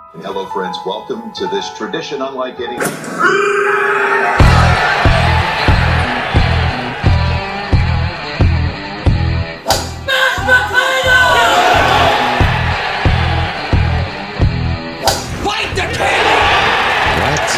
Hello, friends. Welcome to this tradition unlike any. Fight the king! What?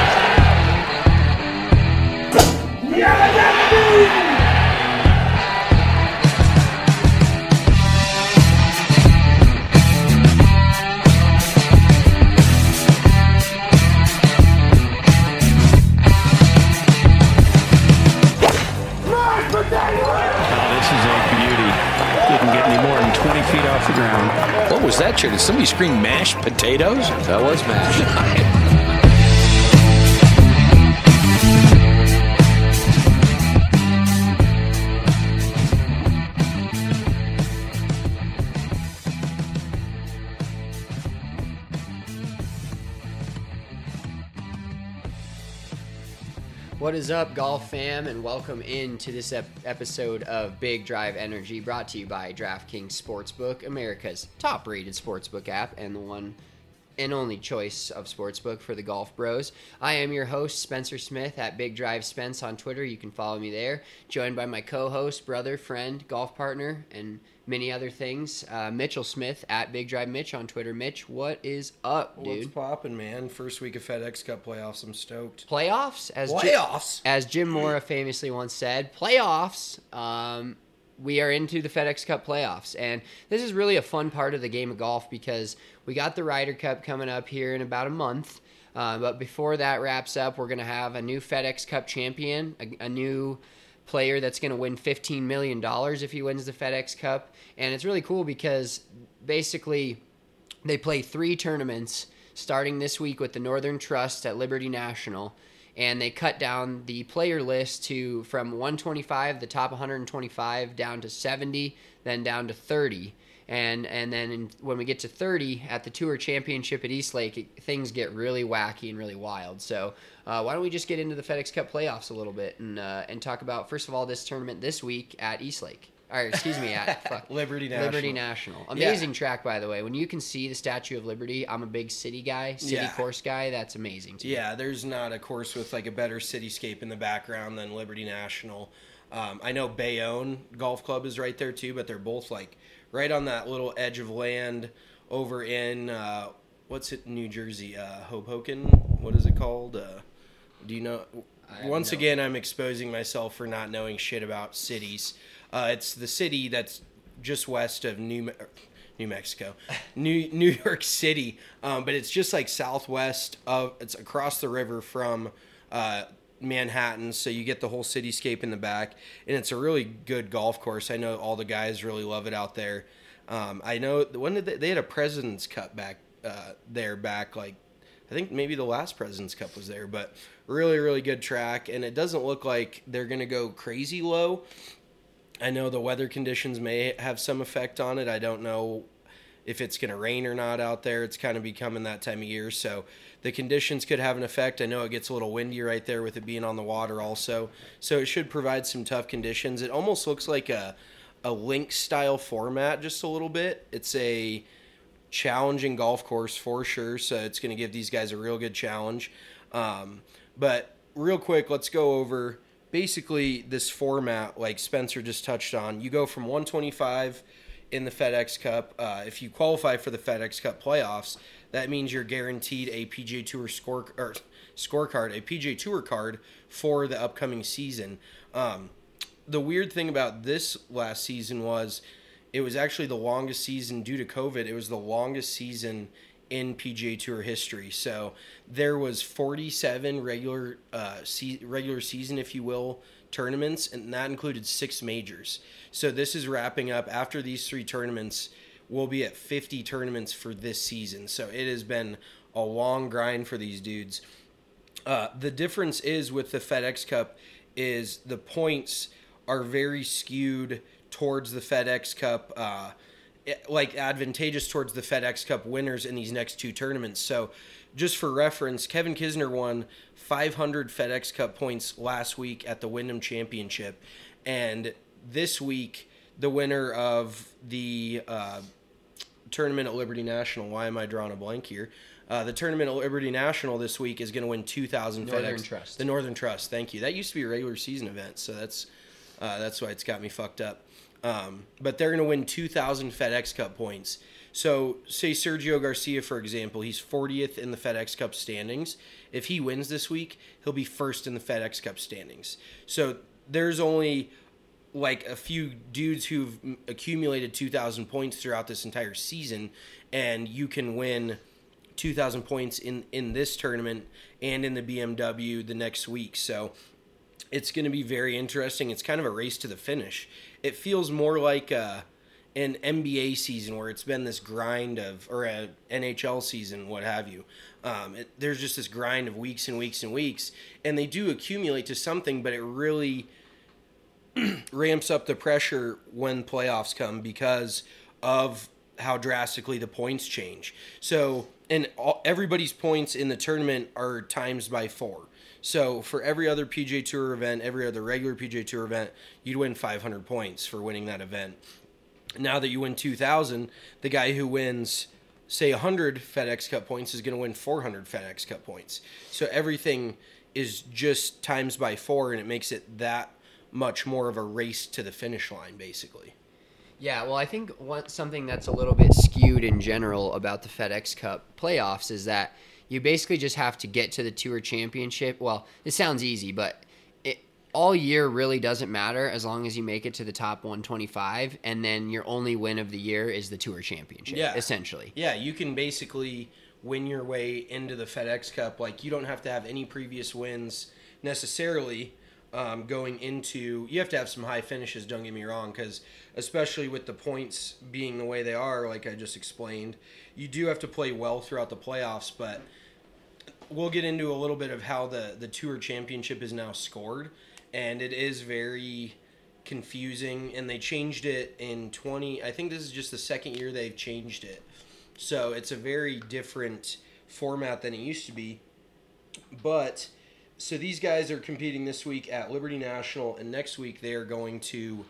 What was that, Chair? Did somebody scream mashed potatoes? That was mashed. What is up, golf fam, and welcome into this episode of Big Drive Energy, brought to you by DraftKings Sportsbook, America's top-rated sportsbook app, and the one and only choice of sportsbook for the golf bros. I am your host, Spencer Smith, at Big Drive Spence on Twitter. You can follow me there. Joined by my co-host, brother, friend, golf partner, and many other things, Mitchell Smith, at Big Drive Mitch on Twitter. Mitch, what is up, dude? What's poppin', man? First week of FedEx Cup playoffs. I'm stoked. Playoffs? As Jim Mora famously once said, playoffs. We are into the FedEx Cup playoffs, and this is really a fun part of the game of golf because we got the Ryder Cup coming up here in about a month. But before that wraps up, we're going to have a new FedEx Cup champion, a new player that's going to win $15 million if he wins the FedEx Cup. And it's really cool because basically they play 3 tournaments starting this week with the Northern Trust at Liberty National. And they cut down the player list from 125, the top 125, down to 70, then down to 30. And then when we get to 30 at the Tour Championship at Eastlake, things get really wacky and really wild. So why don't we just get into the FedEx Cup playoffs a little bit and talk about, first of all, this tournament this week at Eastlake. Or, excuse me, at Liberty National. Liberty National. Amazing track, by the way. When you can see the Statue of Liberty, I'm a big city guy, course guy. That's amazing to me. Yeah, there's not a course with like a better cityscape in the background than Liberty National. I know Bayonne Golf Club is right there too, but they're both like right on that little edge of land over in, what's it, New Jersey? Hoboken? What is it called? Do you know? Once again, I'm exposing myself for not knowing shit about cities. It's the city that's just west of New Mexico, New York City, but it's just like southwest of. It's across the river from Manhattan, so you get the whole cityscape in the back, and it's a really good golf course. I know all the guys really love it out there. I know when did they had a President's Cup back like. I think maybe the last President's Cup was there, but really, really good track, and it doesn't look like they're going to go crazy low. I know the weather conditions may have some effect on it. I don't know if it's going to rain or not out there. It's kind of becoming that time of year, so the conditions could have an effect. I know it gets a little windy right there with it being on the water also, so it should provide some tough conditions. It almost looks like a link-style format just a little bit. It's a challenging golf course for sure, so it's going to give these guys a real good challenge. But real quick, let's go over basically this format like Spencer just touched on. You go from 125 in the FedEx Cup. If you qualify for the FedEx Cup playoffs, that means you're guaranteed a PGA Tour scorecard, a PGA Tour card for the upcoming season. The weird thing about this last season was it was actually the longest season due to COVID. It was the longest season in PGA Tour history. So there was 47 regular season, if you will, tournaments, and that included 6 majors. So this is wrapping up. After these 3 tournaments, we'll be at 50 tournaments for this season. So it has been a long grind for these dudes. The difference is with the FedEx Cup is the points are very skewed towards the FedEx Cup, like advantageous towards the FedEx Cup winners in these next 2 tournaments. So just for reference, Kevin Kisner won 500 FedEx Cup points last week at the Wyndham Championship. And this week, the winner of the tournament at Liberty National. Why am I drawing a blank here? The tournament at Liberty National this week is going to win 2,000 Northern FedEx. Trust. The Northern Trust. Thank you. That used to be a regular season event, so that's why it's got me fucked up. But they're going to win 2,000 FedEx Cup points. So, say Sergio Garcia, for example, he's 40th in the FedEx Cup standings. If he wins this week, he'll be first in the FedEx Cup standings. So, there's only like a few dudes who've accumulated 2,000 points throughout this entire season, and you can win 2,000 points in this tournament and in the BMW the next week. So, it's going to be very interesting. It's kind of a race to the finish. It feels more like an NBA season where it's been this grind of, or an NHL season, what have you. There's just this grind of weeks and weeks and weeks, and they do accumulate to something, but it really ramps up the pressure when playoffs come because of how drastically the points change. So, and everybody's points in the tournament are times by 4. So for every other PGA Tour event, every other regular PGA Tour event, you'd win 500 points for winning that event. Now that you win 2,000, the guy who wins, say, 100 FedEx Cup points is going to win 400 FedEx Cup points. So everything is just times by 4, and it makes it that much more of a race to the finish line, basically. Yeah, well, I think something that's a little bit skewed in general about the FedEx Cup playoffs is that you basically just have to get to the Tour Championship. Well, it sounds easy, but all year really doesn't matter as long as you make it to the top 125, and then your only win of the year is the Tour Championship, essentially. Yeah, you can basically win your way into the FedEx Cup. Like, you don't have to have any previous wins necessarily going into... You have to have some high finishes, don't get me wrong, because especially with the points being the way they are, like I just explained, you do have to play well throughout the playoffs, but we'll get into a little bit of how the Tour Championship is now scored, and it is very confusing, and they changed it in I think this is just the second year they've changed it. So it's a very different format than it used to be. But, so these guys are competing this week at Liberty National, and next week they are going to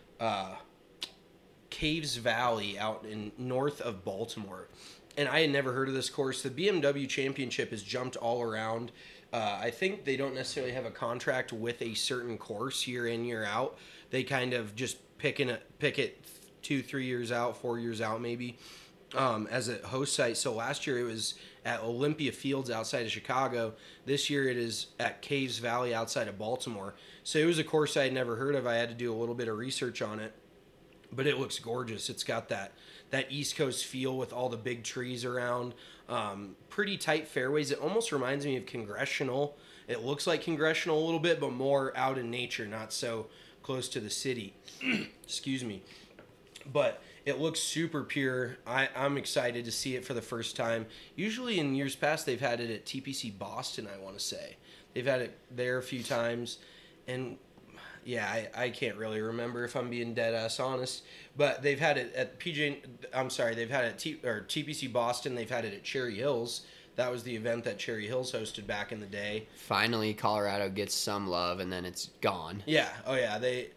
Caves Valley out in north of Baltimore. And I had never heard of this course. The BMW Championship has jumped all around. I think they don't necessarily have a contract with a certain course year in, year out. They kind of just pick it 2-3 years out, 4 years out maybe, as a host site. So last year it was at Olympia Fields outside of Chicago. This year it is at Caves Valley outside of Baltimore. So it was a course I had never heard of. I had to do a little bit of research on it. But it looks gorgeous. It's got that East Coast feel with all the big trees around. Pretty tight fairways. It almost reminds me of Congressional. It looks like Congressional a little bit, but more out in nature, not so close to the city. Excuse me. But it looks super pure. I'm excited to see it for the first time. Usually in years past, they've had it at TPC Boston, I want to say. They've had it there a few times. And... yeah, I can't really remember if I'm being dead ass honest, but they've had it at they've had it at TPC Boston. They've had it at Cherry Hills. That was the event that Cherry Hills hosted back in the day. Finally, Colorado gets some love, and then it's gone. Yeah, oh yeah.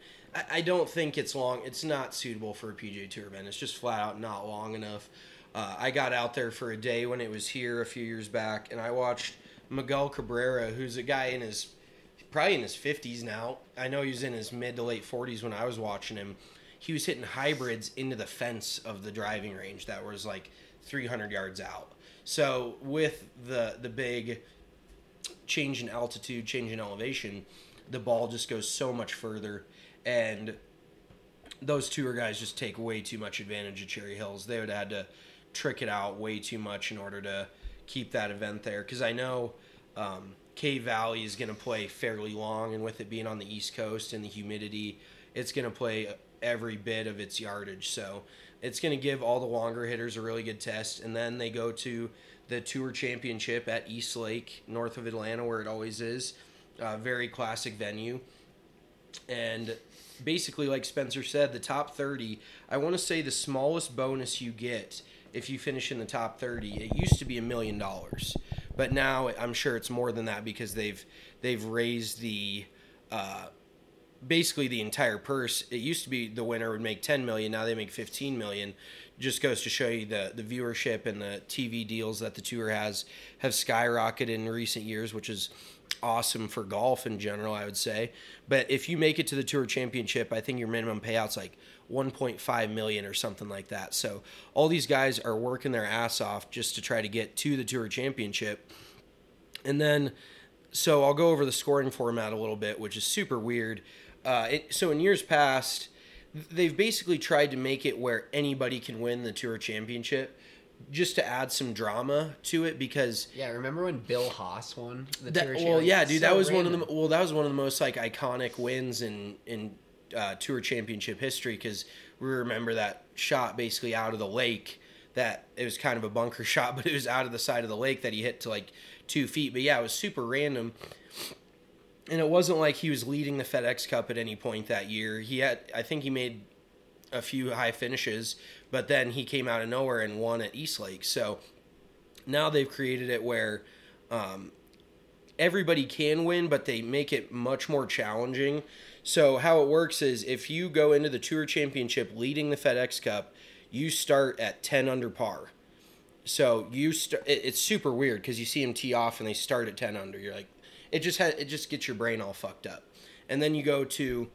I don't think it's long. It's not suitable for a PGA Tour event. It's just flat out not long enough. I got out there for a day when it was here a few years back, and I watched Miguel Cabrera, who's a guy probably in his 50s now. I know he was in his mid to late 40s when I was watching him. He was hitting hybrids into the fence of the driving range that was like 300 yards out. So with the big change in altitude, change in elevation, the ball just goes so much further. And those tour guys just take way too much advantage of Cherry Hills. They would have had to trick it out way too much in order to keep that event there. Because I know... Cave Valley is going to play fairly long, and with it being on the East Coast and the humidity, it's going to play every bit of its yardage. So it's going to give all the longer hitters a really good test, and then they go to the Tour Championship at East Lake, north of Atlanta, where it always is. Very classic venue. And basically, like Spencer said, the top 30, I want to say the smallest bonus you get if you finish in the top 30, it used to be $1 million. But now I'm sure it's more than that because they've raised the basically the entire purse. It used to be the winner would make $10 million. Now they make $15 million just goes to show you the viewership and the TV deals that the tour have skyrocketed in recent years, which is awesome for golf in general, I would say. But if you make it to the Tour Championship, I think your minimum payout's like $1.5 million or something like that. So all these guys are working their ass off just to try to get to the Tour Championship. And then, so I'll go over the scoring format a little bit, which is super weird. So in years past, they've basically tried to make it where anybody can win the Tour Championship, just to add some drama to it, because remember when Bill Haas won the that, Tour well, Championship? yeah, dude, So that was random. that was one of the most like iconic wins in Tour Championship history, because we remember that shot basically out of the lake. That it was kind of a bunker shot, but it was out of the side of the lake that he hit to like 2 feet. But yeah, it was super random. And it wasn't like he was leading the FedEx Cup at any point that year. I think he made a few high finishes, but then he came out of nowhere and won at Eastlake. So now they've created it where everybody can win, but they make it much more challenging. So how it works is if you go into the Tour Championship leading the FedEx Cup, you start at 10 under par. So it's super weird because you see them tee off and they start at 10 under. You're like, it just gets your brain all fucked up. And then you go to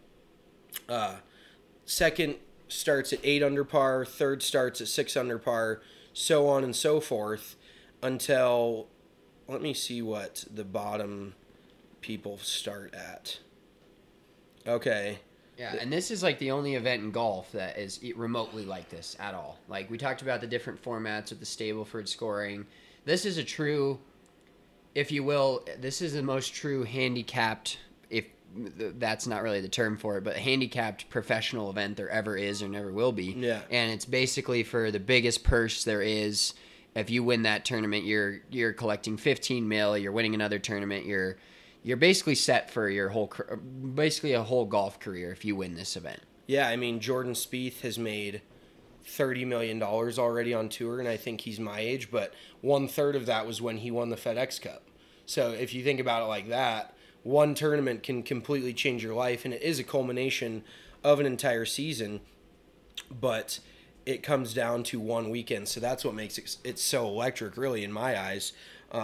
second starts at 8 under par, third starts at 6 under par, so on and so forth until, let me see what the bottom people start at. Okay. Yeah, and this is like the only event in golf that is remotely like this at all. Like we talked about the different formats with the Stableford scoring. This is a true, if you will, this is the most true handicapped, if that's not really the term for it, but handicapped professional event there ever is or never will be. Yeah. And it's basically for the biggest purse there is. If you win that tournament, you're collecting 15 mil. You're winning another tournament. You're basically set for your basically a whole golf career if you win this event. Yeah, I mean, Jordan Spieth has made $30 million already on tour, and I think he's my age, but 1/3 of that was when he won the FedEx Cup. So if you think about it like that, one tournament can completely change your life, and it is a culmination of an entire season, but it comes down to one weekend. So that's what makes it so electric, really, in my eyes.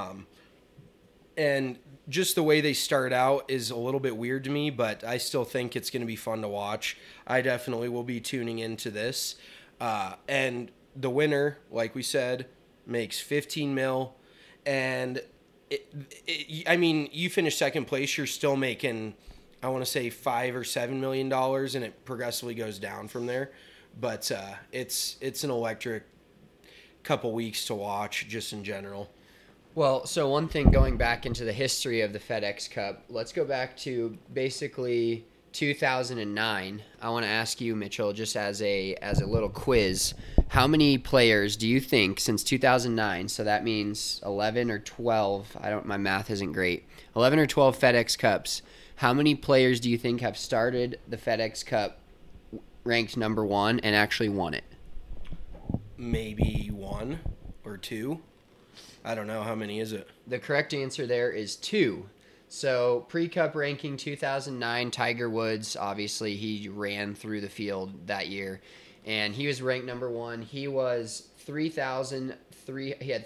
And just the way they start out is a little bit weird to me, but I still think it's going to be fun to watch. I definitely will be tuning into this. And the winner, like we said, makes 15 mil. And I mean, you finish second place, you're still making, I want to say $5 or $7 million, and it progressively goes down from there. But it's an electric couple weeks to watch, just in general. Well, so one thing, going back into the history of the FedEx Cup, let's go back to basically 2009. I want to ask you, Mitchell, just as a little quiz, how many players do you think since 2009, so that means 11 or 12, my math isn't great, 11 or 12 FedEx Cups, how many players do you think have started the FedEx Cup ranked number 1 and actually won it? Maybe 1 or 2. I don't know. How many is it? The correct answer there is 2. So pre-Cup ranking 2009, Tiger Woods, obviously he ran through the field that year, and he was ranked number 1. He was he had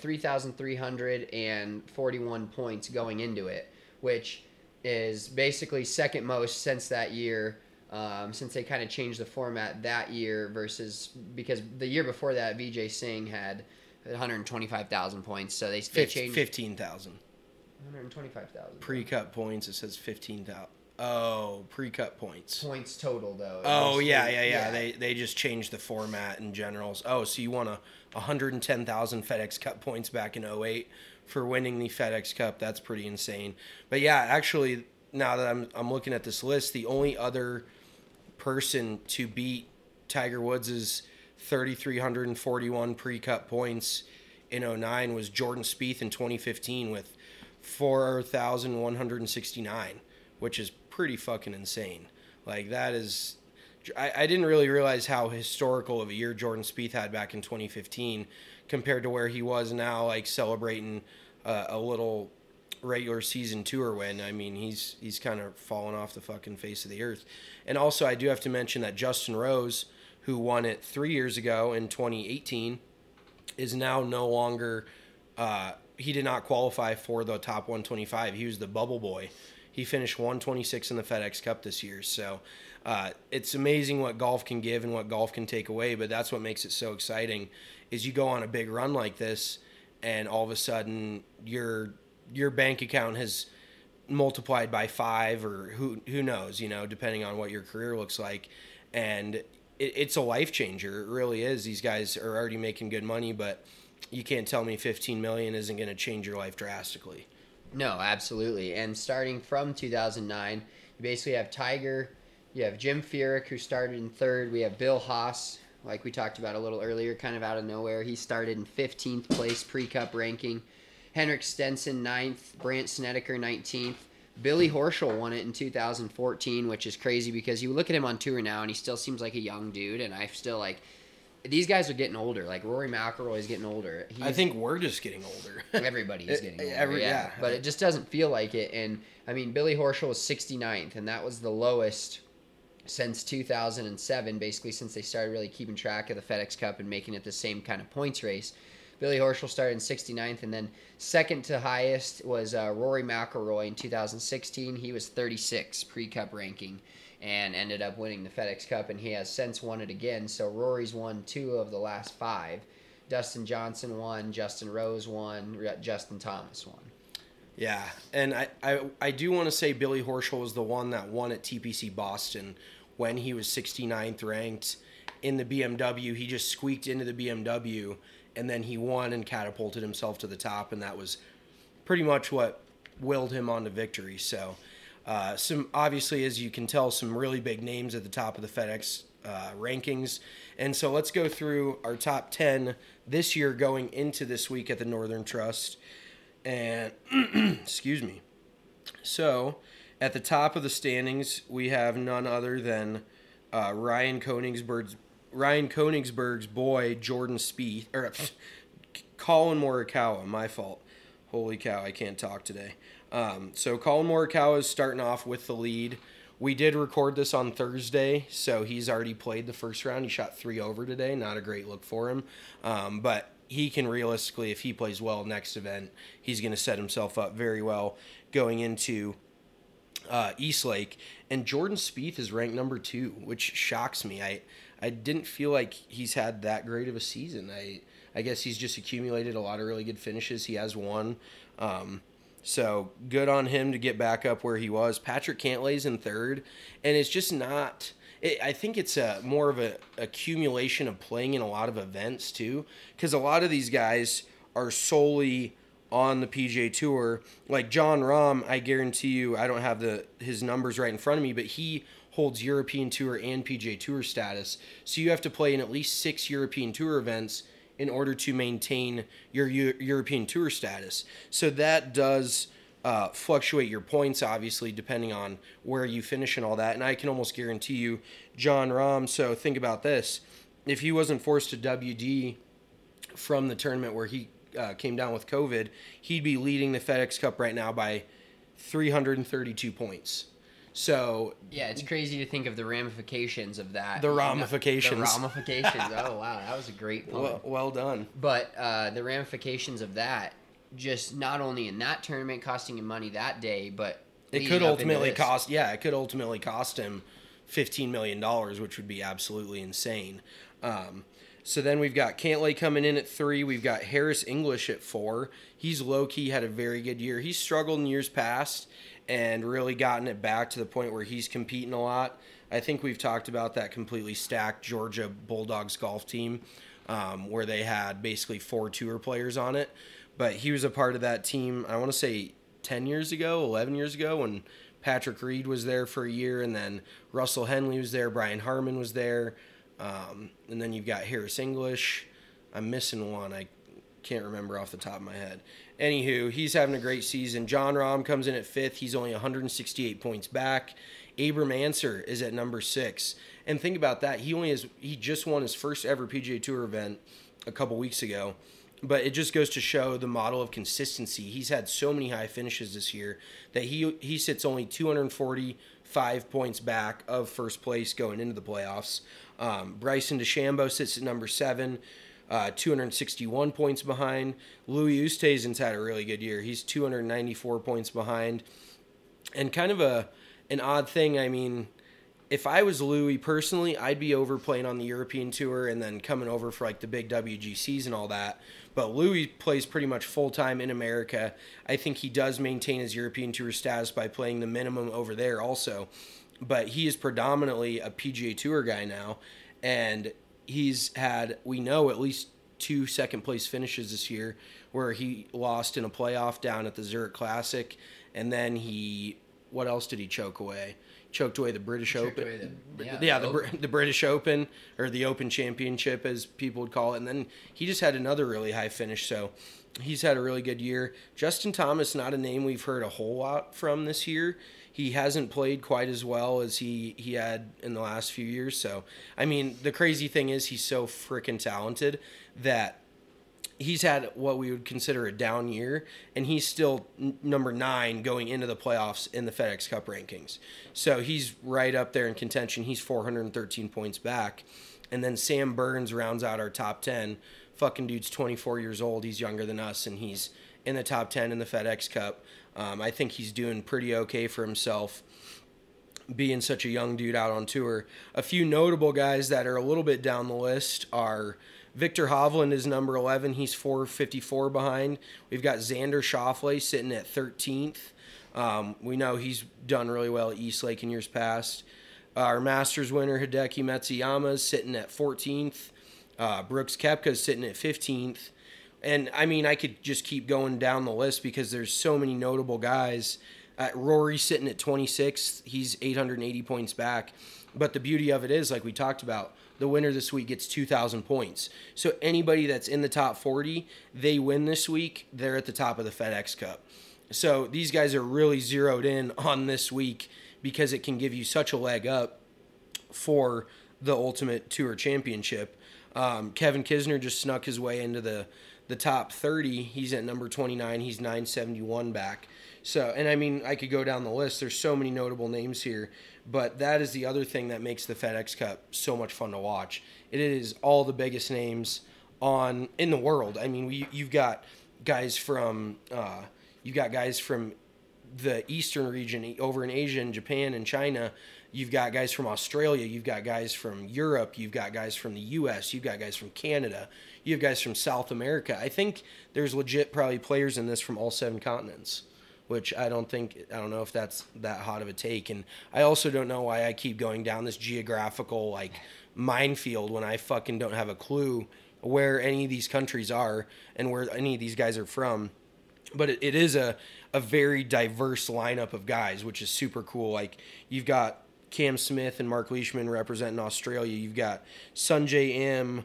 3,341 points going into it, which is basically second most since that year, since they kind of changed the format that year because the year before that, Vijay Singh had 125,000 points, so they changed 15,000. 125,000 Pre-cut points. It says 15,000. Oh, pre-cut points. points total though. Oh yeah. They just changed the format in general. Oh, so you won 110,000 FedEx Cup points back in 2008 for winning the FedEx Cup. That's pretty insane. But yeah, actually, now that I'm looking at this list, the only other person to beat Tiger Woods' 3,341 pre-cut points in 2009 was Jordan Spieth in 2015 with 4,169, which is pretty fucking insane. Like, that is... I didn't really realize how historical of a year Jordan Spieth had back in 2015 compared to where he was now, like, celebrating a little regular season tour win. I mean, he's kind of fallen off the fucking face of the earth. And also, I do have to mention that Justin Rose who won it 3 years ago in 2018, is now no longer. He did not qualify for the top 125. He was the bubble boy. He finished 126 in the FedEx Cup this year. So it's amazing what golf can give and what golf can take away. But that's what makes it so exciting. Is you go on a big run like this, and all of a sudden your bank account has multiplied by 5, or who knows, depending on what your career looks like. And it's a life changer. It really is. These guys are already making good money, but you can't tell me $15 million isn't going to change your life drastically. No, absolutely. And starting from 2009, you basically have Tiger, you have Jim Furyk, who started in 3rd. We have Bill Haas, like we talked about a little earlier, kind of out of nowhere. He started in 15th place pre-cup ranking. Henrik Stenson 9th, Brandt Snedeker 19th. Billy Horschel won it in 2014, which is crazy because you look at him on tour now and he still seems like a young dude, and I still like these guys are getting older. Like Rory McIlroy is getting older. I think we're just getting older. Everybody is getting older. Yeah. But it just doesn't feel like it. And I mean, Billy Horschel was 69th, and that was the lowest since 2007, basically since they started really keeping track of the FedEx Cup and making it the same kind of points race. Billy Horschel started in 69th, and then second to highest was Rory McIlroy in 2016. He was 36 pre-cup ranking and ended up winning the FedEx Cup, and he has since won it again. So Rory's won 2 of the last 5. Dustin Johnson won, Justin Rose won, Justin Thomas won. Yeah, and I do want to say Billy Horschel was the one that won at TPC Boston when he was 69th ranked in the BMW. He just squeaked into the BMW, and then he won and catapulted himself to the top, and that was pretty much what willed him on to victory. So some, obviously, as you can tell, some really big names at the top of the FedEx rankings. And so let's go through our top 10 this year going into this week at the Northern Trust. And, excuse me. So at the top of the standings, we have none other than Ryan Koenigsberg's boy, Jordan Spieth, or Colin Morikawa, my fault. Holy cow, I can't talk today. So Colin Morikawa is starting off with the lead. We did record this on Thursday, so he's already played the first round. He shot 3 over today. Not a great look for him. But he can realistically, if he plays well next event, he's going to set himself up very well going into East Lake. And Jordan Spieth is ranked number 2, which shocks me. I didn't feel like he's had that great of a season. I guess he's just accumulated a lot of really good finishes. He has one. So good on him to get back up where he was. Patrick Cantlay's in 3rd, and it's just not... I think it's more of an accumulation of playing in a lot of events, too, because a lot of these guys are solely on the PGA Tour. Like John Rahm, I guarantee you, I don't have his numbers right in front of me, but he holds European Tour and PGA Tour status. So you have to play in at least 6 European Tour events in order to maintain your European Tour status. So that does fluctuate your points, obviously, depending on where you finish and all that. And I can almost guarantee you, John Rahm, so think about this. If he wasn't forced to WD from the tournament where he came down with COVID, he'd be leading the FedEx Cup right now by 332 points. So yeah, it's crazy to think of the ramifications of that. The ramifications. Oh wow, that was a great pun. Well done. But the ramifications of that, just not only in that tournament costing him money that day, but it could ultimately cost. Yeah, it could ultimately cost him $15 million, which would be absolutely insane. So then we've got Cantlay coming in at 3. We've got Harris English at 4. He's low-key had a very good year. He's struggled in years past and really gotten it back to the point where he's competing a lot. I think we've talked about that completely stacked Georgia Bulldogs golf team where they had basically 4 tour players on it. But he was a part of that team, I want to say 10 years ago, 11 years ago, when Patrick Reed was there for a year, and then Russell Henley was there, Brian Harman was there. And then you've got Harris English. I'm missing one. I can't remember off the top of my head. Anywho, he's having a great season. John Rahm comes in at 5th. He's only 168 points back. Abram Answer is at number 6. And think about that. He just won his first ever PGA Tour event a couple weeks ago. But it just goes to show the model of consistency. He's had so many high finishes this year that he sits only 245 points back of first place going into the playoffs. Bryson DeChambeau sits at number 7, 261 points behind. Louis Oosthuizen's had a really good year. He's 294 points behind. And kind of an odd thing, I mean, if I was Louis personally, I'd be over playing on the European Tour and then coming over for like the big WGCs and all that. But Louis plays pretty much full-time in America. I think he does maintain his European Tour status by playing the minimum over there also. But he is predominantly a PGA Tour guy now. And he's had, we know, at least 2 second-place finishes this year where he lost in a playoff down at the Zurich Classic. And then what else did he choke away? Choked away the British Open. The British Open, or the Open Championship, as people would call it. And then he just had another really high finish. So he's had a really good year. Justin Thomas, not a name we've heard a whole lot from this year. He hasn't played quite as well as he had in the last few years. So, I mean, the crazy thing is he's so freaking talented that he's had what we would consider a down year, and he's still number 9 going into the playoffs in the FedEx Cup rankings. So he's right up there in contention. He's 413 points back. And then Sam Burns rounds out our top 10. Fucking dude's 24 years old. He's younger than us, and he's in the top 10 in the FedEx Cup. I think he's doing pretty okay for himself, being such a young dude out on tour. A few notable guys that are a little bit down the list are Victor Hovland is number 11. He's 454 behind. We've got Xander Schauffele sitting at 13th. We know he's done really well at East Lake in years past. Our Masters winner, Hideki Matsuyama, is sitting at 14th. Brooks Koepka is sitting at 15th. And, I mean, I could just keep going down the list because there's so many notable guys. Rory sitting at 26th. He's 880 points back. But the beauty of it is, like we talked about, the winner this week gets 2,000 points. So anybody that's in the top 40, they win this week, they're at the top of the FedEx Cup. So these guys are really zeroed in on this week because it can give you such a leg up for the Ultimate Tour Championship. Kevin Kisner just snuck his way into the top 30. He's at number 29. He's 971 back. So, and I mean, I could go down the list. There's so many notable names here, but that is the other thing that makes the FedEx Cup so much fun to watch. It is all the biggest names in the world. I mean, you've got guys from the Eastern region over in Asia and Japan and China. You've got guys from Australia. You've got guys from Europe. You've got guys from the U.S. You've got guys from Canada. You have guys from South America. I think there's legit probably players in this from all 7 continents, which I don't know if that's that hot of a take. And I also don't know why I keep going down this geographical minefield when I fucking don't have a clue where any of these countries are and where any of these guys are from. But it is a very diverse lineup of guys, which is super cool. Like, you've got Cam Smith and Mark Leishman representing Australia. You've got Sungjae Im,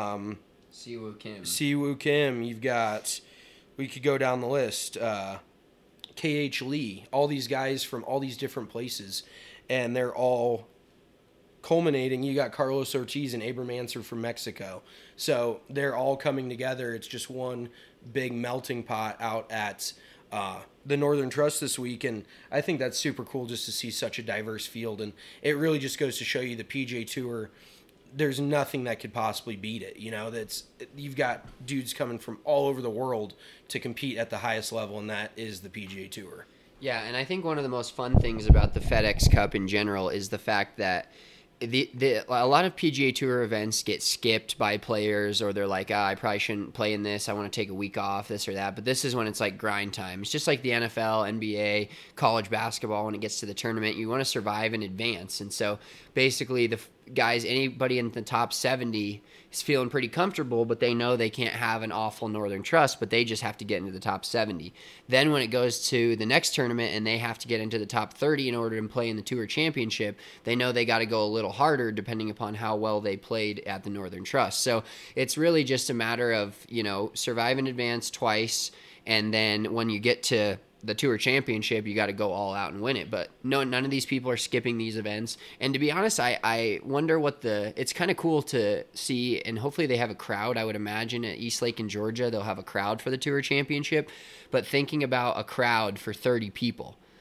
Siwoo Kim. You've got, we could go down the list, KH Lee, all these guys from all these different places, and they're all culminating. You got Carlos Ortiz and Abraham Ancer from Mexico. So they're all coming together. It's just one big melting pot out at the Northern Trust this week, and I think that's super cool just to see such a diverse field, and it really just goes to show you the PGA Tour, there's nothing that could possibly beat it. You know, you've got dudes coming from all over the world to compete at the highest level, and that is the PGA Tour. Yeah, and I think one of the most fun things about the FedEx Cup in general is the fact that a lot of PGA Tour events get skipped by players, or they're like, I probably shouldn't play in this. I want to take a week off, this or that. But this is when it's like grind time. It's just like the NFL, NBA, college basketball. When it gets to the tournament, you want to survive in advance. And so basically the guys, anybody in the top 70 is feeling pretty comfortable, but they know they can't have an awful Northern Trust, but they just have to get into the top 70. Then when it goes to the next tournament and they have to get into the top 30 in order to play in the Tour Championship, they know they got to go a little harder depending upon how well they played at the Northern Trust. So it's really just a matter of, survive in advance twice, and then when you get to the Tour Championship, you got to go all out and win it. But no, none of these people are skipping these events. And to be honest, I wonder it's kind of cool to see, and hopefully they have a crowd. I would imagine at East Lake in Georgia, they'll have a crowd for the Tour Championship. But thinking about a crowd for 30 people,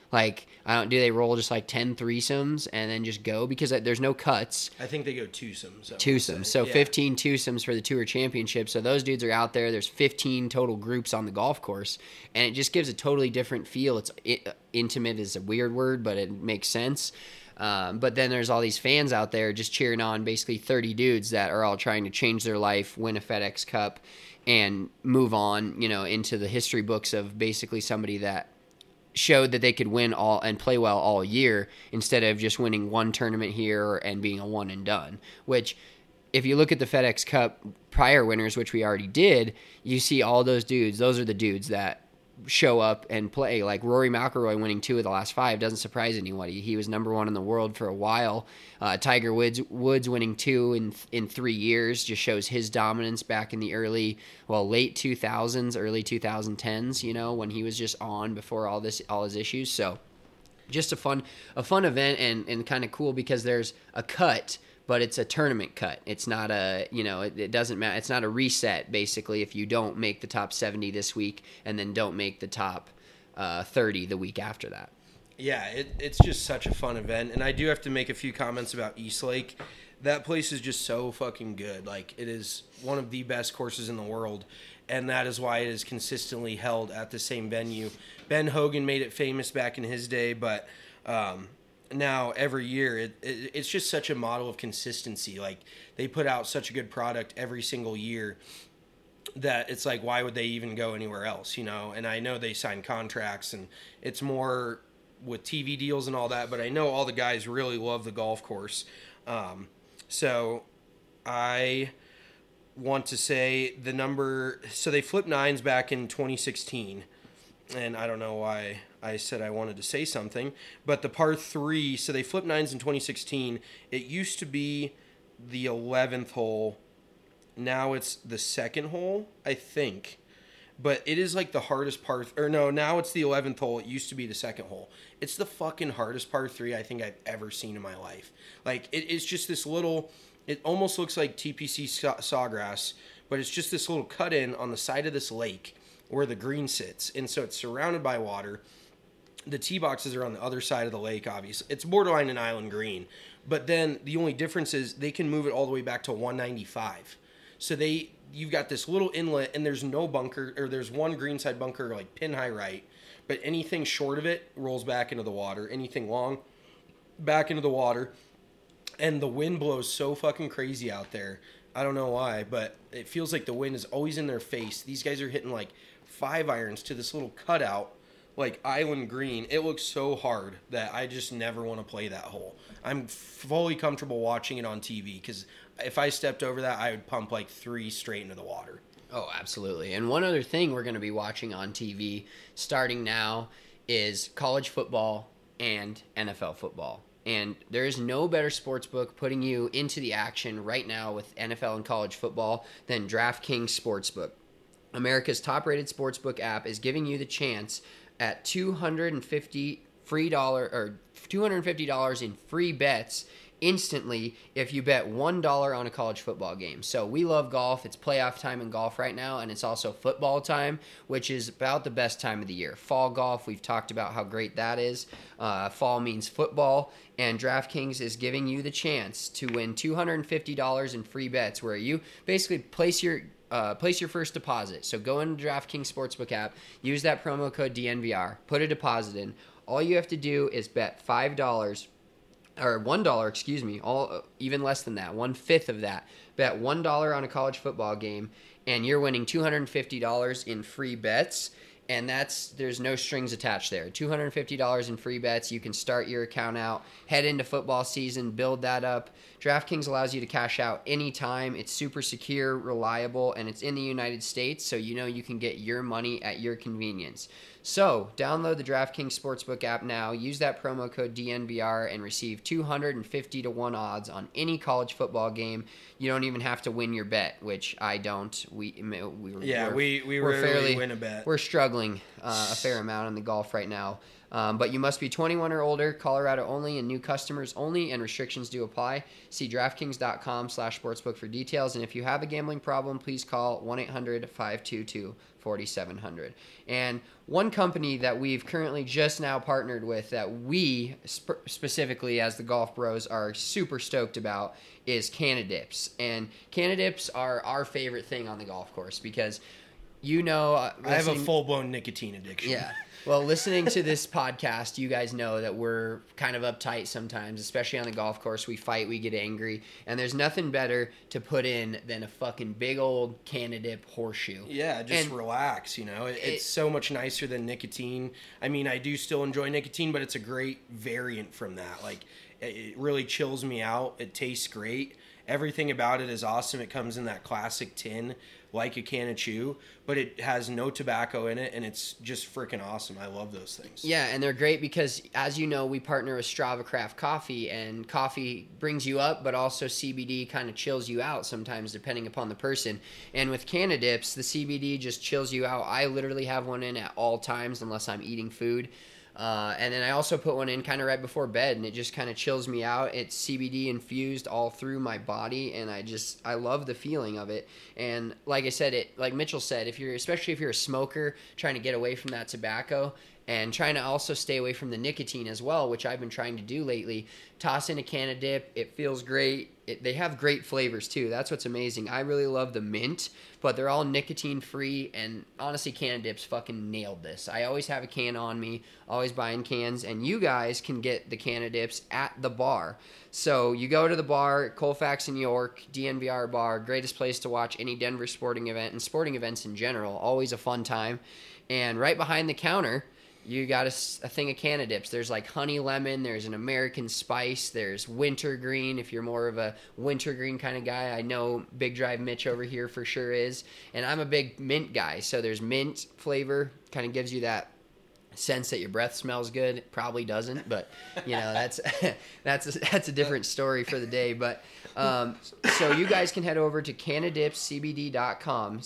Like, do they roll just like 10 threesomes and then just go? Because there's no cuts. I think they go twosomes. So 15 twosomes for the Tour Championship. So those dudes are out there. There's 15 total groups on the golf course, and it just gives a totally different feel. Intimate is a weird word, but it makes sense. But then there's all these fans out there just cheering on basically 30 dudes that are all trying to change their life, win a FedEx Cup, and move on, into the history books of basically somebody that showed that they could win all and play well all year instead of just winning one tournament here and being a one and done. Which, if you look at the FedEx Cup prior winners, which we already did, you see all those dudes. Those are the dudes that show up and play. Like Rory McIlroy winning 2 of the last 5 doesn't surprise anybody. He was number 1 in the world for a while. Tiger Woods winning 2 in 3 years just shows his dominance back in the late 2000s, early 2010s, when he was just on before all his issues. So just a fun event and kind of cool because there's a cut, but it's a tournament cut. It's not it doesn't matter. It's not a reset, basically, if you don't make the top 70 this week and then don't make the top 30 the week after that. Yeah, it's just such a fun event. And I do have to make a few comments about East Lake. That place is just so fucking good. Like, it is one of the best courses in the world, and that is why it is consistently held at the same venue. Ben Hogan made it famous back in his day, but now every year it's just such a model of consistency. Like, they put out such a good product every single year that it's like, why would they even go anywhere else, And I know they sign contracts and it's more with TV deals and all that, but I know all the guys really love the golf course. So I want to say so they flipped 9s back in 2016, and I don't know why I said I wanted to say something, but the par 3, so they flipped 9s in 2016. It used to be the 11th hole. Now it's the 2nd hole, I think. But it is like the hardest now it's the 11th hole. It used to be the 2nd hole. It's the fucking hardest par 3 I think I've ever seen in my life. Like, it's just this little, it almost looks like TPC Sawgrass, but it's just this little cut in on the side of this lake where the green sits. And so it's surrounded by water. The tee boxes are on the other side of the lake, obviously. It's borderline an island green. But then the only difference is they can move it all the way back to 195. So you've got this little inlet, and there's no bunker, or there's one greenside bunker, like pin high right. But anything short of it rolls back into the water. Anything long, back into the water. And the wind blows so fucking crazy out there. I don't know why, but it feels like the wind is always in their face. These guys are hitting like 5 irons to this little cutout, like island green. It looks so hard that I just never want to play that hole. I'm fully comfortable watching it on TV because if I stepped over that, I would pump like 3 straight into the water. Oh, absolutely. And one other thing we're going to be watching on TV starting now is college football and NFL football. And there is no better sportsbook putting you into the action right now with NFL and college football than DraftKings Sportsbook. America's top-rated sportsbook app is giving you the chance at $250 in free bets instantly if you bet $1 on a college football game. So we love golf. It's playoff time in golf right now, and it's also football time, which is about the best time of the year. Fall golf, we've talked about how great that is. Fall means football, and DraftKings is giving you the chance to win $250 in free bets where you basically place your first deposit. So go into DraftKings Sportsbook app, use that promo code DNVR, put a deposit in. All you have to do is bet $5 or $1, even less than that, 1/5 of that. Bet $1 on a college football game, and you're winning $250 in free bets. And there's no strings attached there. $250 in free bets. You can start your account out, head into football season, build that up. DraftKings allows you to cash out anytime. It's super secure, reliable, and it's in the United States, so you can get your money at your convenience. So download the DraftKings Sportsbook app now. Use that promo code DNVR and receive 250 to 1 odds on any college football game. You don't even have to win your bet, which I don't. We rarely win a bet. We're struggling struggling a fair amount in the golf right now. But you must be 21 or older, Colorado only, and new customers only, and restrictions do apply. See DraftKings.com/sportsbook for details. And if you have a gambling problem, please call 1-800-522-4700. And one company that we've currently just now partnered with that we specifically as the Golf Bros are super stoked about is Canadips. And Canadips are our favorite thing on the golf course because, you know, I have a full-blown nicotine addiction. Yeah. Well, listening to this podcast, you guys know that we're kind of uptight sometimes, especially on the golf course. We fight, we get angry, and there's nothing better to put in than a fucking big old Canadip horseshoe. Yeah, just relax, you know. It's so much nicer than nicotine. I mean, I do still enjoy nicotine, but it's a great variant from that. Like, it really chills me out. It tastes great. Everything about it is awesome. It comes in that classic tin, like a can of chew, but it has no tobacco in it, and it's just freaking awesome. I love those things. Yeah, and they're great because, as you know, we partner with Strava Craft Coffee, and coffee brings you up, but also CBD kind of chills you out sometimes, depending upon the person. And with Canadips, the CBD just chills you out. I literally have one in at all times unless I'm eating food. And then I also put one in kind of right before bed, and it just kind of chills me out. It's CBD infused all through my body, and I love the feeling of it. And like I said, like Mitchell said, especially if you're a smoker trying to get away from that tobacco and trying to also stay away from the nicotine as well, which I've been trying to do lately, toss in a Canadip. It feels great. They have great flavors too. That's what's amazing. I really love the mint, but they're all nicotine free, and honestly, Canadips fucking nailed this. I always have a can on me, always buying cans, and you guys can get the Canadips at the bar. So you go to the bar, Colfax in York, DNVR bar, greatest place to watch any Denver sporting event and sporting events in general. Always a fun time. And right behind the counter, you got a thing of Canadips. There's like honey lemon, there's an American spice, there's wintergreen if you're more of a wintergreen kind of guy. I know Big Drive Mitch over here for sure is. And I'm a big mint guy, so there's mint flavor, kind of gives you that sense that your breath smells good. It probably doesn't, but you know, that's a different story for the day. But so you guys can head over to CanadipsCBD.com,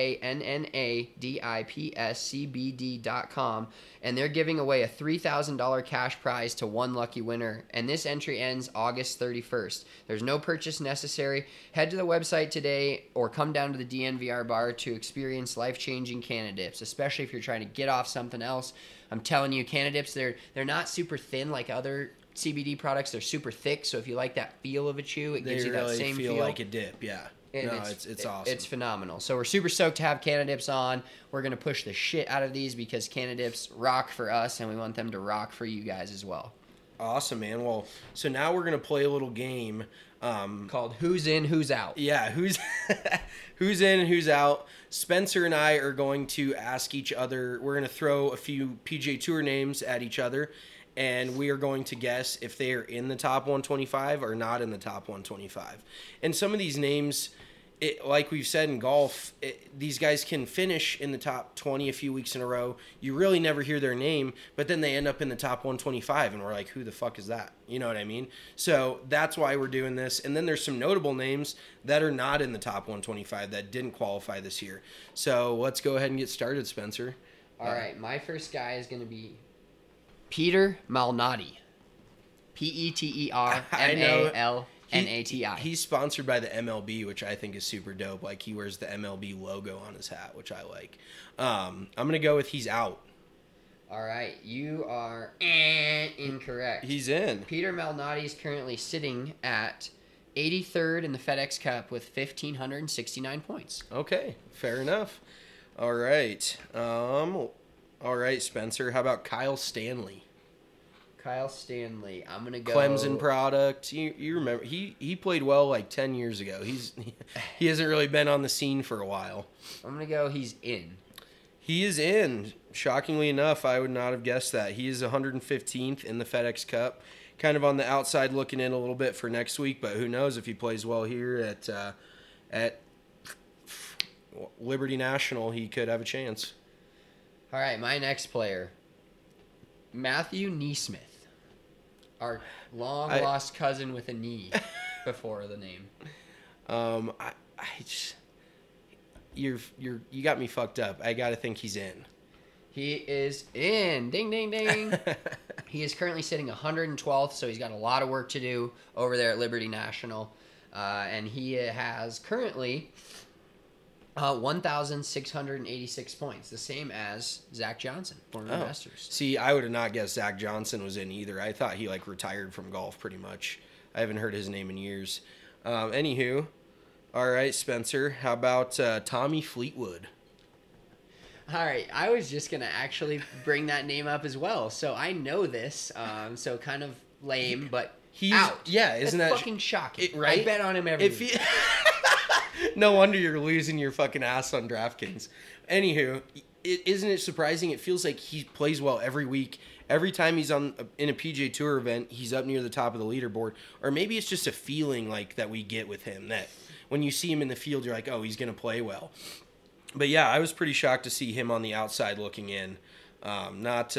CanadipsCBD.com, and they're giving away a $3,000 cash prize to one lucky winner, and this entry ends August 31st. There's no purchase necessary. Head to the website today or come down to the DNVR bar to experience life-changing Canadips, especially if you're trying to get off something else. I'm telling you, Canadips, they're not super thin like other CBD products. They're super thick, so if you like that feel of a chew, it gives you that same feel. Feel like a dip, yeah. And no, it's awesome. It's phenomenal. So we're super stoked to have Canadips on. We're going to push the shit out of these because Canadips rock for us, and we want them to rock for you guys as well. Awesome, man. Well, so now we're going to play a little game called Who's In, Who's Out. Yeah, who's in, who's out. Spencer and I are going to ask each other. We're going to throw a few PGA Tour names at each other, and we are going to guess if they are in the top 125 or not in the top 125. And some of these names, like we've said in golf, these guys can finish in the top 20 a few weeks in a row. You really never hear their name, but then they end up in the top 125, and we're like, who the fuck is that? You know what I mean? So that's why we're doing this. And then there's some notable names that are not in the top 125 that didn't qualify this year. So let's go ahead and get started, Spencer. All right, my first guy is going to be Peter Malnati. PeterMalnati. He's sponsored by the MLB, which I think is super dope. Like, he wears the MLB logo on his hat, which I like. I'm going to go with he's out. All right, you are incorrect. He's in. Peter Malnati is currently sitting at 83rd in the FedEx Cup with 1,569 points. Okay, fair enough. All right. All right, Spencer. How about Kyle Stanley? Kyle Stanley. I'm gonna go Clemson product. You remember he played well like 10 years ago. He hasn't really been on the scene for a while. I'm gonna go. He's in. He is in. Shockingly enough, I would not have guessed that. He is 115th in the FedEx Cup. Kind of on the outside looking in a little bit for next week, but who knows if he plays well here at Liberty National, he could have a chance. All right, my next player, Matthew Neesmith, our long-lost cousin with a knee before the name. You got me fucked up. I got to think he's in. He is in. Ding, ding, ding. He is currently sitting 112th, so he's got a lot of work to do over there at Liberty National. And he has currently 1,686 points, the same as Zach Johnson, former Masters. See, I would have not guessed Zach Johnson was in either. I thought he retired from golf pretty much. I haven't heard his name in years. Anywho, all right, Spencer, how about Tommy Fleetwood? All right, I was just going to actually bring that name up as well. So I know this, so kind of lame, but he's out. Yeah, isn't That's that fucking shocking? right? I bet on him every week. No wonder you're losing your fucking ass on DraftKings. Anywho, isn't it surprising? It feels like he plays well every week. Every time he's in a PGA Tour event, he's up near the top of the leaderboard. Or maybe it's just a feeling like that we get with him, that when you see him in the field, you're like, oh, he's going to play well. But yeah, I was pretty shocked to see him on the outside looking in. Not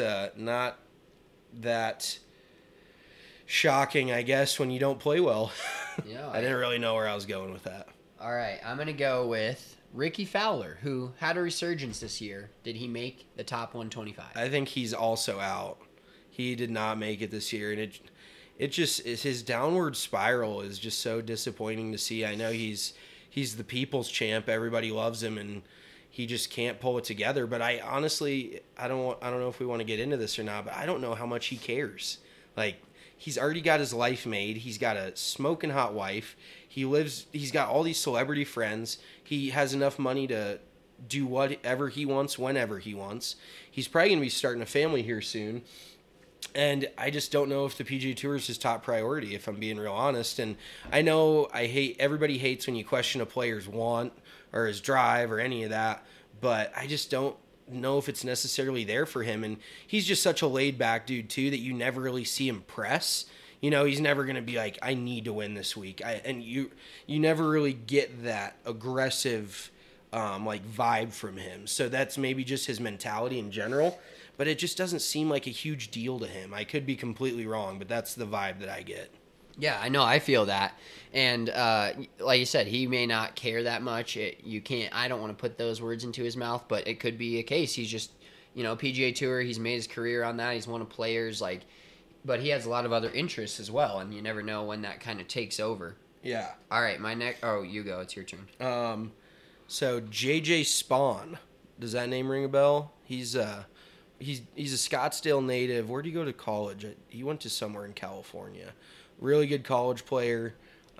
that shocking, I guess, when you don't play well. Yeah, I didn't really know where I was going with that. All right, I'm going to go with Ricky Fowler, who had a resurgence this year. Did he make the top 125? I think he's also out. He did not make it this year, and it just his downward spiral is just so disappointing to see. I know he's the people's champ. Everybody loves him, and he just can't pull it together. But I honestly, I don't know if we want to get into this or not, but I don't know how much he cares. Like, he's already got his life made. He's got a smoking hot wife. He's got all these celebrity friends. He has enough money to do whatever he wants, whenever he wants. He's probably going to be starting a family here soon. And I just don't know if the PGA Tour is his top priority, if I'm being real honest. And I know everybody hates when you question a player's want or his drive or any of that, but I just don't know if it's necessarily there for him. And he's just such a laid back dude too, that you never really see him press. You know, he's never going to be like, I need to win this week. And you never really get that aggressive vibe from him. So that's maybe just his mentality in general, but it just doesn't seem like a huge deal to him. I could be completely wrong, but that's the vibe that I get. Yeah, I know. I feel that. And like you said, he may not care that much. I don't want to put those words into his mouth, but it could be a case. He's just, PGA Tour, he's made his career on that. He's one of players, but he has a lot of other interests as well, and you never know when that kind of takes over. Yeah. All right, you go. It's your turn. So JJ Spawn, does that name ring a bell? He's a Scottsdale native. Where'd he go to college? He went to somewhere in California. Really good college player.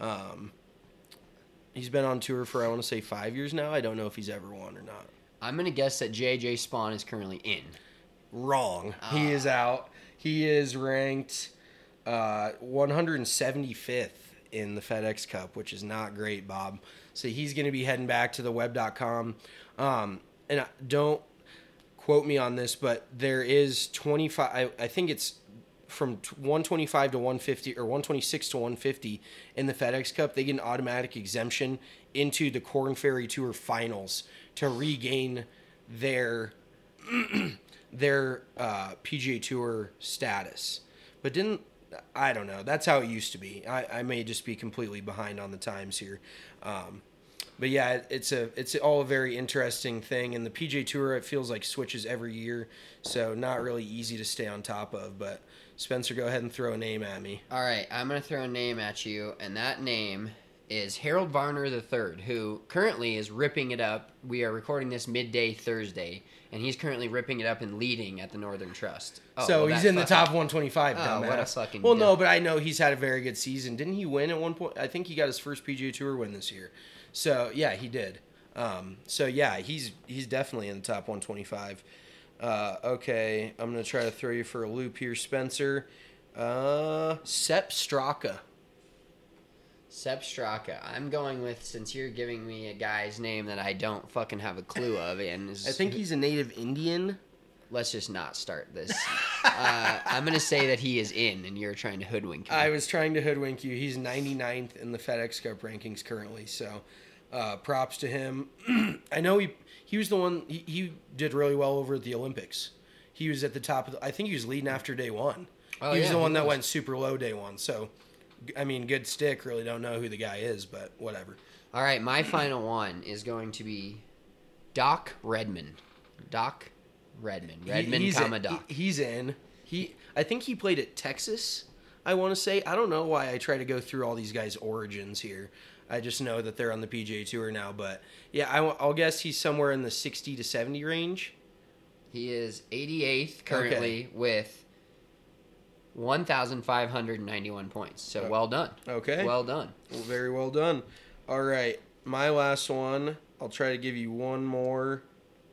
He's been on tour for, I want to say, 5 years now. I don't know if he's ever won or not. I'm going to guess that JJ Spawn is currently in. Wrong. He is out. He is ranked 175th in the FedEx Cup, which is not great, Bob. So he's going to be heading back to the web.com. And don't quote me on this, but there is 25, I think it's from 125 to 150 or 126 to 150 in the FedEx Cup. They get an automatic exemption into the Korn Ferry Tour finals to regain their PGA Tour status. But I don't know. That's how it used to be. I may just be completely behind on the times here. But yeah, it's all a very interesting thing. And the PGA Tour, it feels like switches every year. So not really easy to stay on top of. But Spencer, go ahead and throw a name at me. All right, I'm going to throw a name at you. And that name is Harold Varner III, who currently is ripping it up. We are recording this midday Thursday, and he's currently ripping it up and leading at the Northern Trust. He's in the top 125, dumbass. What a fucking... Well, no, but I know he's had a very good season. Didn't he win at one point? I think he got his first PGA Tour win this year. So, yeah, he did. He's definitely in the top 125. Okay, I'm going to try to throw you for a loop here, Spencer. Sepp Straka. Sepp Straka. I'm going with, since you're giving me a guy's name that I don't fucking have a clue of, and I think he's a native Indian. Let's just not start this. I'm going to say that he is in, and you're trying to hoodwink me. I was trying to hoodwink you. He's 99th in the FedEx Cup rankings currently, so props to him. I know he was the one, he did really well over at the Olympics. He was at the top I think he was leading after day one. He was the one that went super low day one, so... I mean, good stick. Really don't know who the guy is, but whatever. All right, my final one is going to be Doc Redman. Doc Redmond He's Commodore. He's in. I think he played at Texas, I want to say. I don't know why I try to go through all these guys' origins here. I just know that they're on the PGA Tour now. But, yeah, I'll guess he's somewhere in the 60 to 70 range. He is 88th currently with 1,591 points. So well done. Okay. Well done. Well, very well done. All right. My last one. I'll try to give you one more.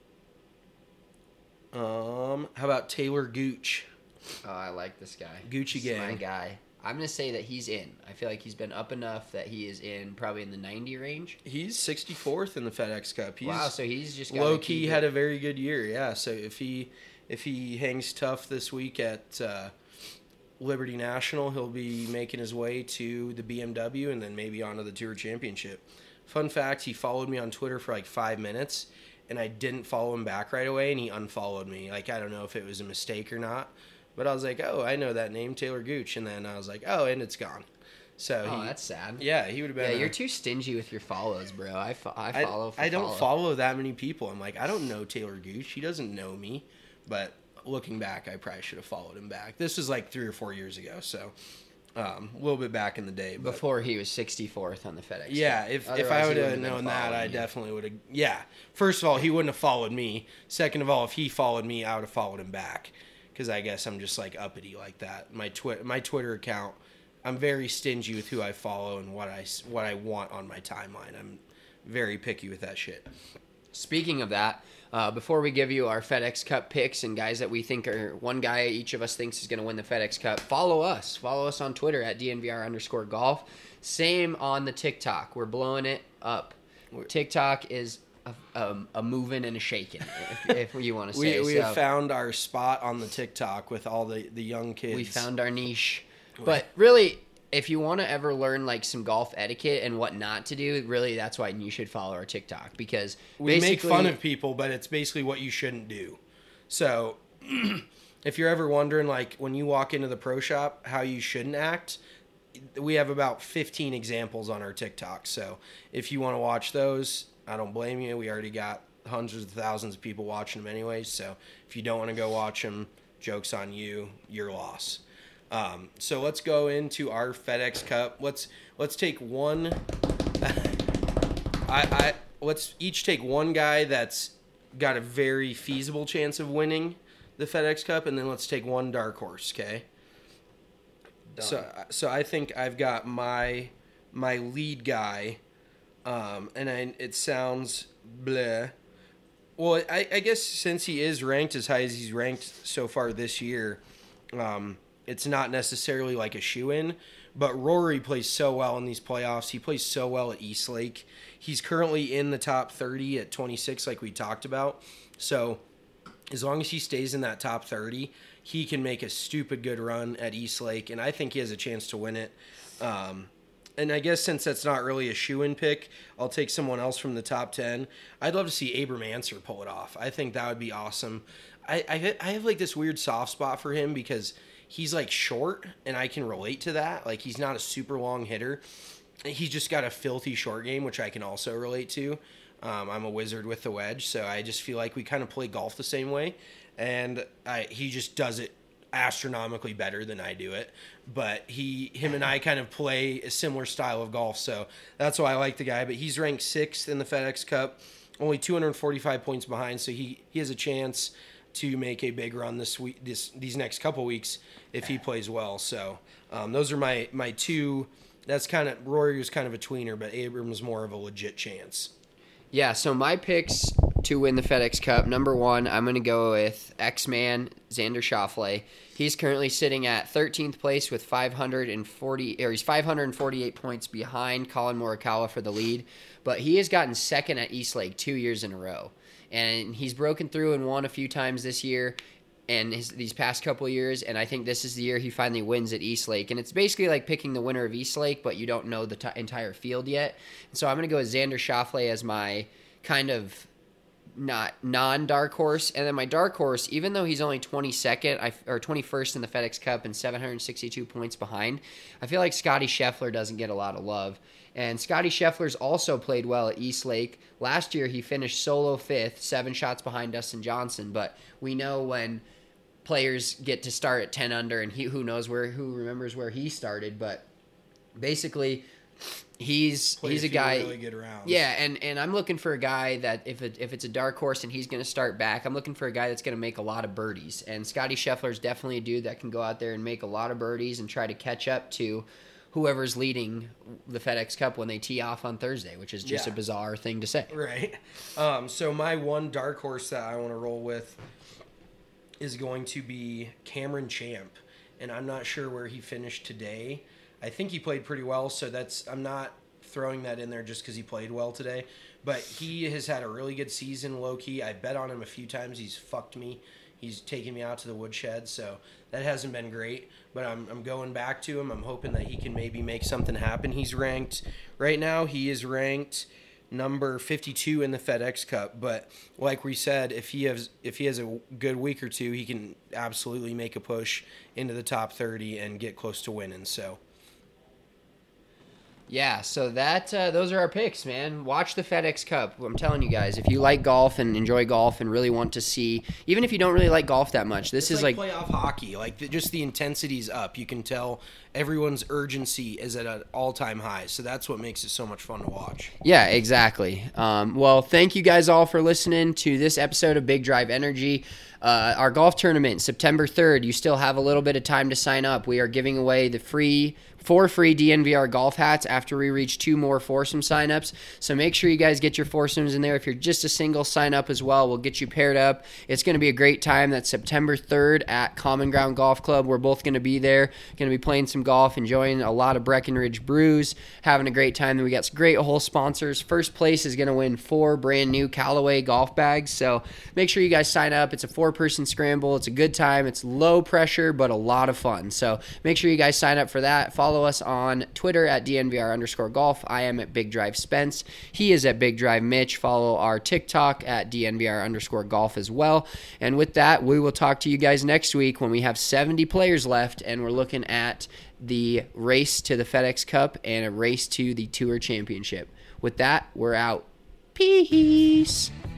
How about Taylor Gooch? Oh, I like this guy. Gucci This is gang. my guy. I'm going to say that he's in. I feel like he's been up enough that he is in probably in the 90 range. He's 64th in the FedEx Cup. Wow, so he's just low key had a very good year. Yeah, so if he hangs tough this week at Liberty National, he'll be making his way to the BMW and then maybe onto the Tour Championship. Fun fact, he followed me on Twitter for like 5 minutes, and I didn't follow him back right away, and he unfollowed me. Like, I don't know if it was a mistake or not, but I was like, oh, I know that name, Taylor Gooch, and then I was like, oh, and it's gone. So that's sad. Yeah, he would have been. Yeah, you're too stingy with your follows, bro. I follow. I don't follow that many people. I'm like, I don't know Taylor Gooch. He doesn't know me. But looking back, I probably should have followed him back. This was like 3 or 4 years ago, so a little bit back in the day. But before he was 64th on the FedEx. Yeah, Cup. if Otherwise, I he would wouldn't have been known that, I following you. definitely would have. Yeah, first of all, he wouldn't have followed me. Second of all, if he followed me, I would have followed him back. Because I guess I'm just like uppity like that. My Twitter account, I'm very stingy with who I follow and what I want on my timeline. I'm very picky with that shit. Speaking of that, before we give you our FedEx Cup picks and guys that we think are one guy each of us thinks is going to win the FedEx Cup, follow us. Follow us on Twitter at DNVR_golf. Same on the TikTok. We're blowing it up. TikTok is a moving and a shaking, if you want to say. We have found our spot on the TikTok with all the young kids. We found our niche. But really, if you want to ever learn like some golf etiquette and what not to do, really that's why you should follow our TikTok, because we make fun of people, but it's basically what you shouldn't do. So if you're ever wondering, like when you walk into the pro shop, how you shouldn't act, we have about 15 examples on our TikTok. So if you want to watch those, I don't blame you. We already got hundreds of thousands of people watching them anyway. So if you don't want to go watch them, joke's on you, your loss. So let's go into our FedEx Cup. Let's take one. Let's each take one guy that's got a very feasible chance of winning the FedEx Cup, and then let's take one dark horse. Okay. Done. So I think I've got my lead guy, it sounds bleh. Well, I guess since he is ranked as high as he's ranked so far this year, it's not necessarily like a shoe-in, but Rory plays so well in these playoffs. He plays so well at Eastlake. He's currently in the top 30 at 26, like we talked about. So as long as he stays in that top 30, he can make a stupid good run at Eastlake, and I think he has a chance to win it. And I guess since that's not really a shoe-in pick, I'll take someone else from the top 10. I'd love to see Abram Ancer pull it off. I think that would be awesome. I have like this weird soft spot for him because he's like short, and I can relate to that. Like, he's not a super long hitter. He's just got a filthy short game, which I can also relate to. I'm a wizard with the wedge, so I just feel like we kind of play golf the same way. And he just does it astronomically better than I do it. But him and I kind of play a similar style of golf, so that's why I like the guy. But he's ranked 6th in the FedEx Cup, only 245 points behind, so he has a chance to make a big run this week, these next couple weeks if he plays well. So those are my two. That's kind of, Rory was kind of a tweener, but Abram's more of a legit chance. Yeah, so my picks to win the FedEx Cup, number 1, I'm going to go with X-Man, Xander Schauffele. He's currently sitting at 13th place with 548 points behind Colin Morikawa for the lead, but he has gotten second at Eastlake 2 years in a row. And he's broken through and won a few times this year and these past couple of years, and I think this is the year he finally wins at Eastlake. And it's basically like picking the winner of Eastlake, but you don't know the entire field yet. And so I'm going to go with Xander Schauffele as my kind of not non-dark horse. And then my dark horse, even though he's only 22nd or 21st in the FedEx Cup and 762 points behind, I feel like Scotty Scheffler doesn't get a lot of love. And Scotty Scheffler's also played well at East Lake. Last year he finished solo 5th, 7 shots behind Dustin Johnson. But we know when players get to start at 10 under, and who remembers where he started. But basically, he's a guy. Really good rounds. Yeah, and I'm looking for a guy that if it's a dark horse and he's going to start back, I'm looking for a guy that's going to make a lot of birdies. And Scotty Scheffler is definitely a dude that can go out there and make a lot of birdies and try to catch up to whoever's leading the FedEx Cup when they tee off on Thursday, which is just a bizarre thing to say. Right. So my one dark horse that I want to roll with is going to be Cameron Champ, and I'm not sure where he finished today. I think he played pretty well, so I'm not throwing that in there just because he played well today. But he has had a really good season, low-key. I bet on him a few times. He's fucked me. He's taken me out to the woodshed, so that hasn't been great. But I'm going back to him. I'm hoping that he can maybe make something happen. He's ranked right now. He is ranked number 52 in the FedEx Cup. But like we said, if he has a good week or two, he can absolutely make a push into the top 30 and get close to winning. So. Yeah, so those are our picks, man. Watch the FedEx Cup. I'm telling you guys, if you like golf and enjoy golf and really want to see, even if you don't really like golf that much, this is like playoff hockey. Like just the intensity's up. You can tell everyone's urgency is at an all-time high. So that's what makes it so much fun to watch. Yeah, exactly. Well, thank you guys all for listening to this episode of Big Drive Energy. Our golf tournament, September 3rd. You still have a little bit of time to sign up. We are giving away the four free DNVR golf hats after we reach 2 more foursome signups. So make sure you guys get your foursomes in there. If you're just a single, sign up as well. We'll get you paired up. It's going to be a great time. That's September 3rd at Common Ground Golf Club. We're both going to be there. Going to be playing some golf, enjoying a lot of Breckenridge brews, having a great time. Then we got some great whole sponsors. First place is going to win 4 brand new Callaway golf bags. So make sure you guys sign up. It's a 4-person scramble. It's a good time. It's low pressure, but a lot of fun. So make sure you guys sign up for that. Follow us on Twitter at DNVR_golf. I am at Big Drive Spence. He is at Big Drive Mitch. Follow our TikTok at DNVR_golf as well. And with that, we will talk to you guys next week when we have 70 players left and we're looking at the race to the FedEx Cup and a race to the Tour Championship. With that, we're out. Peace.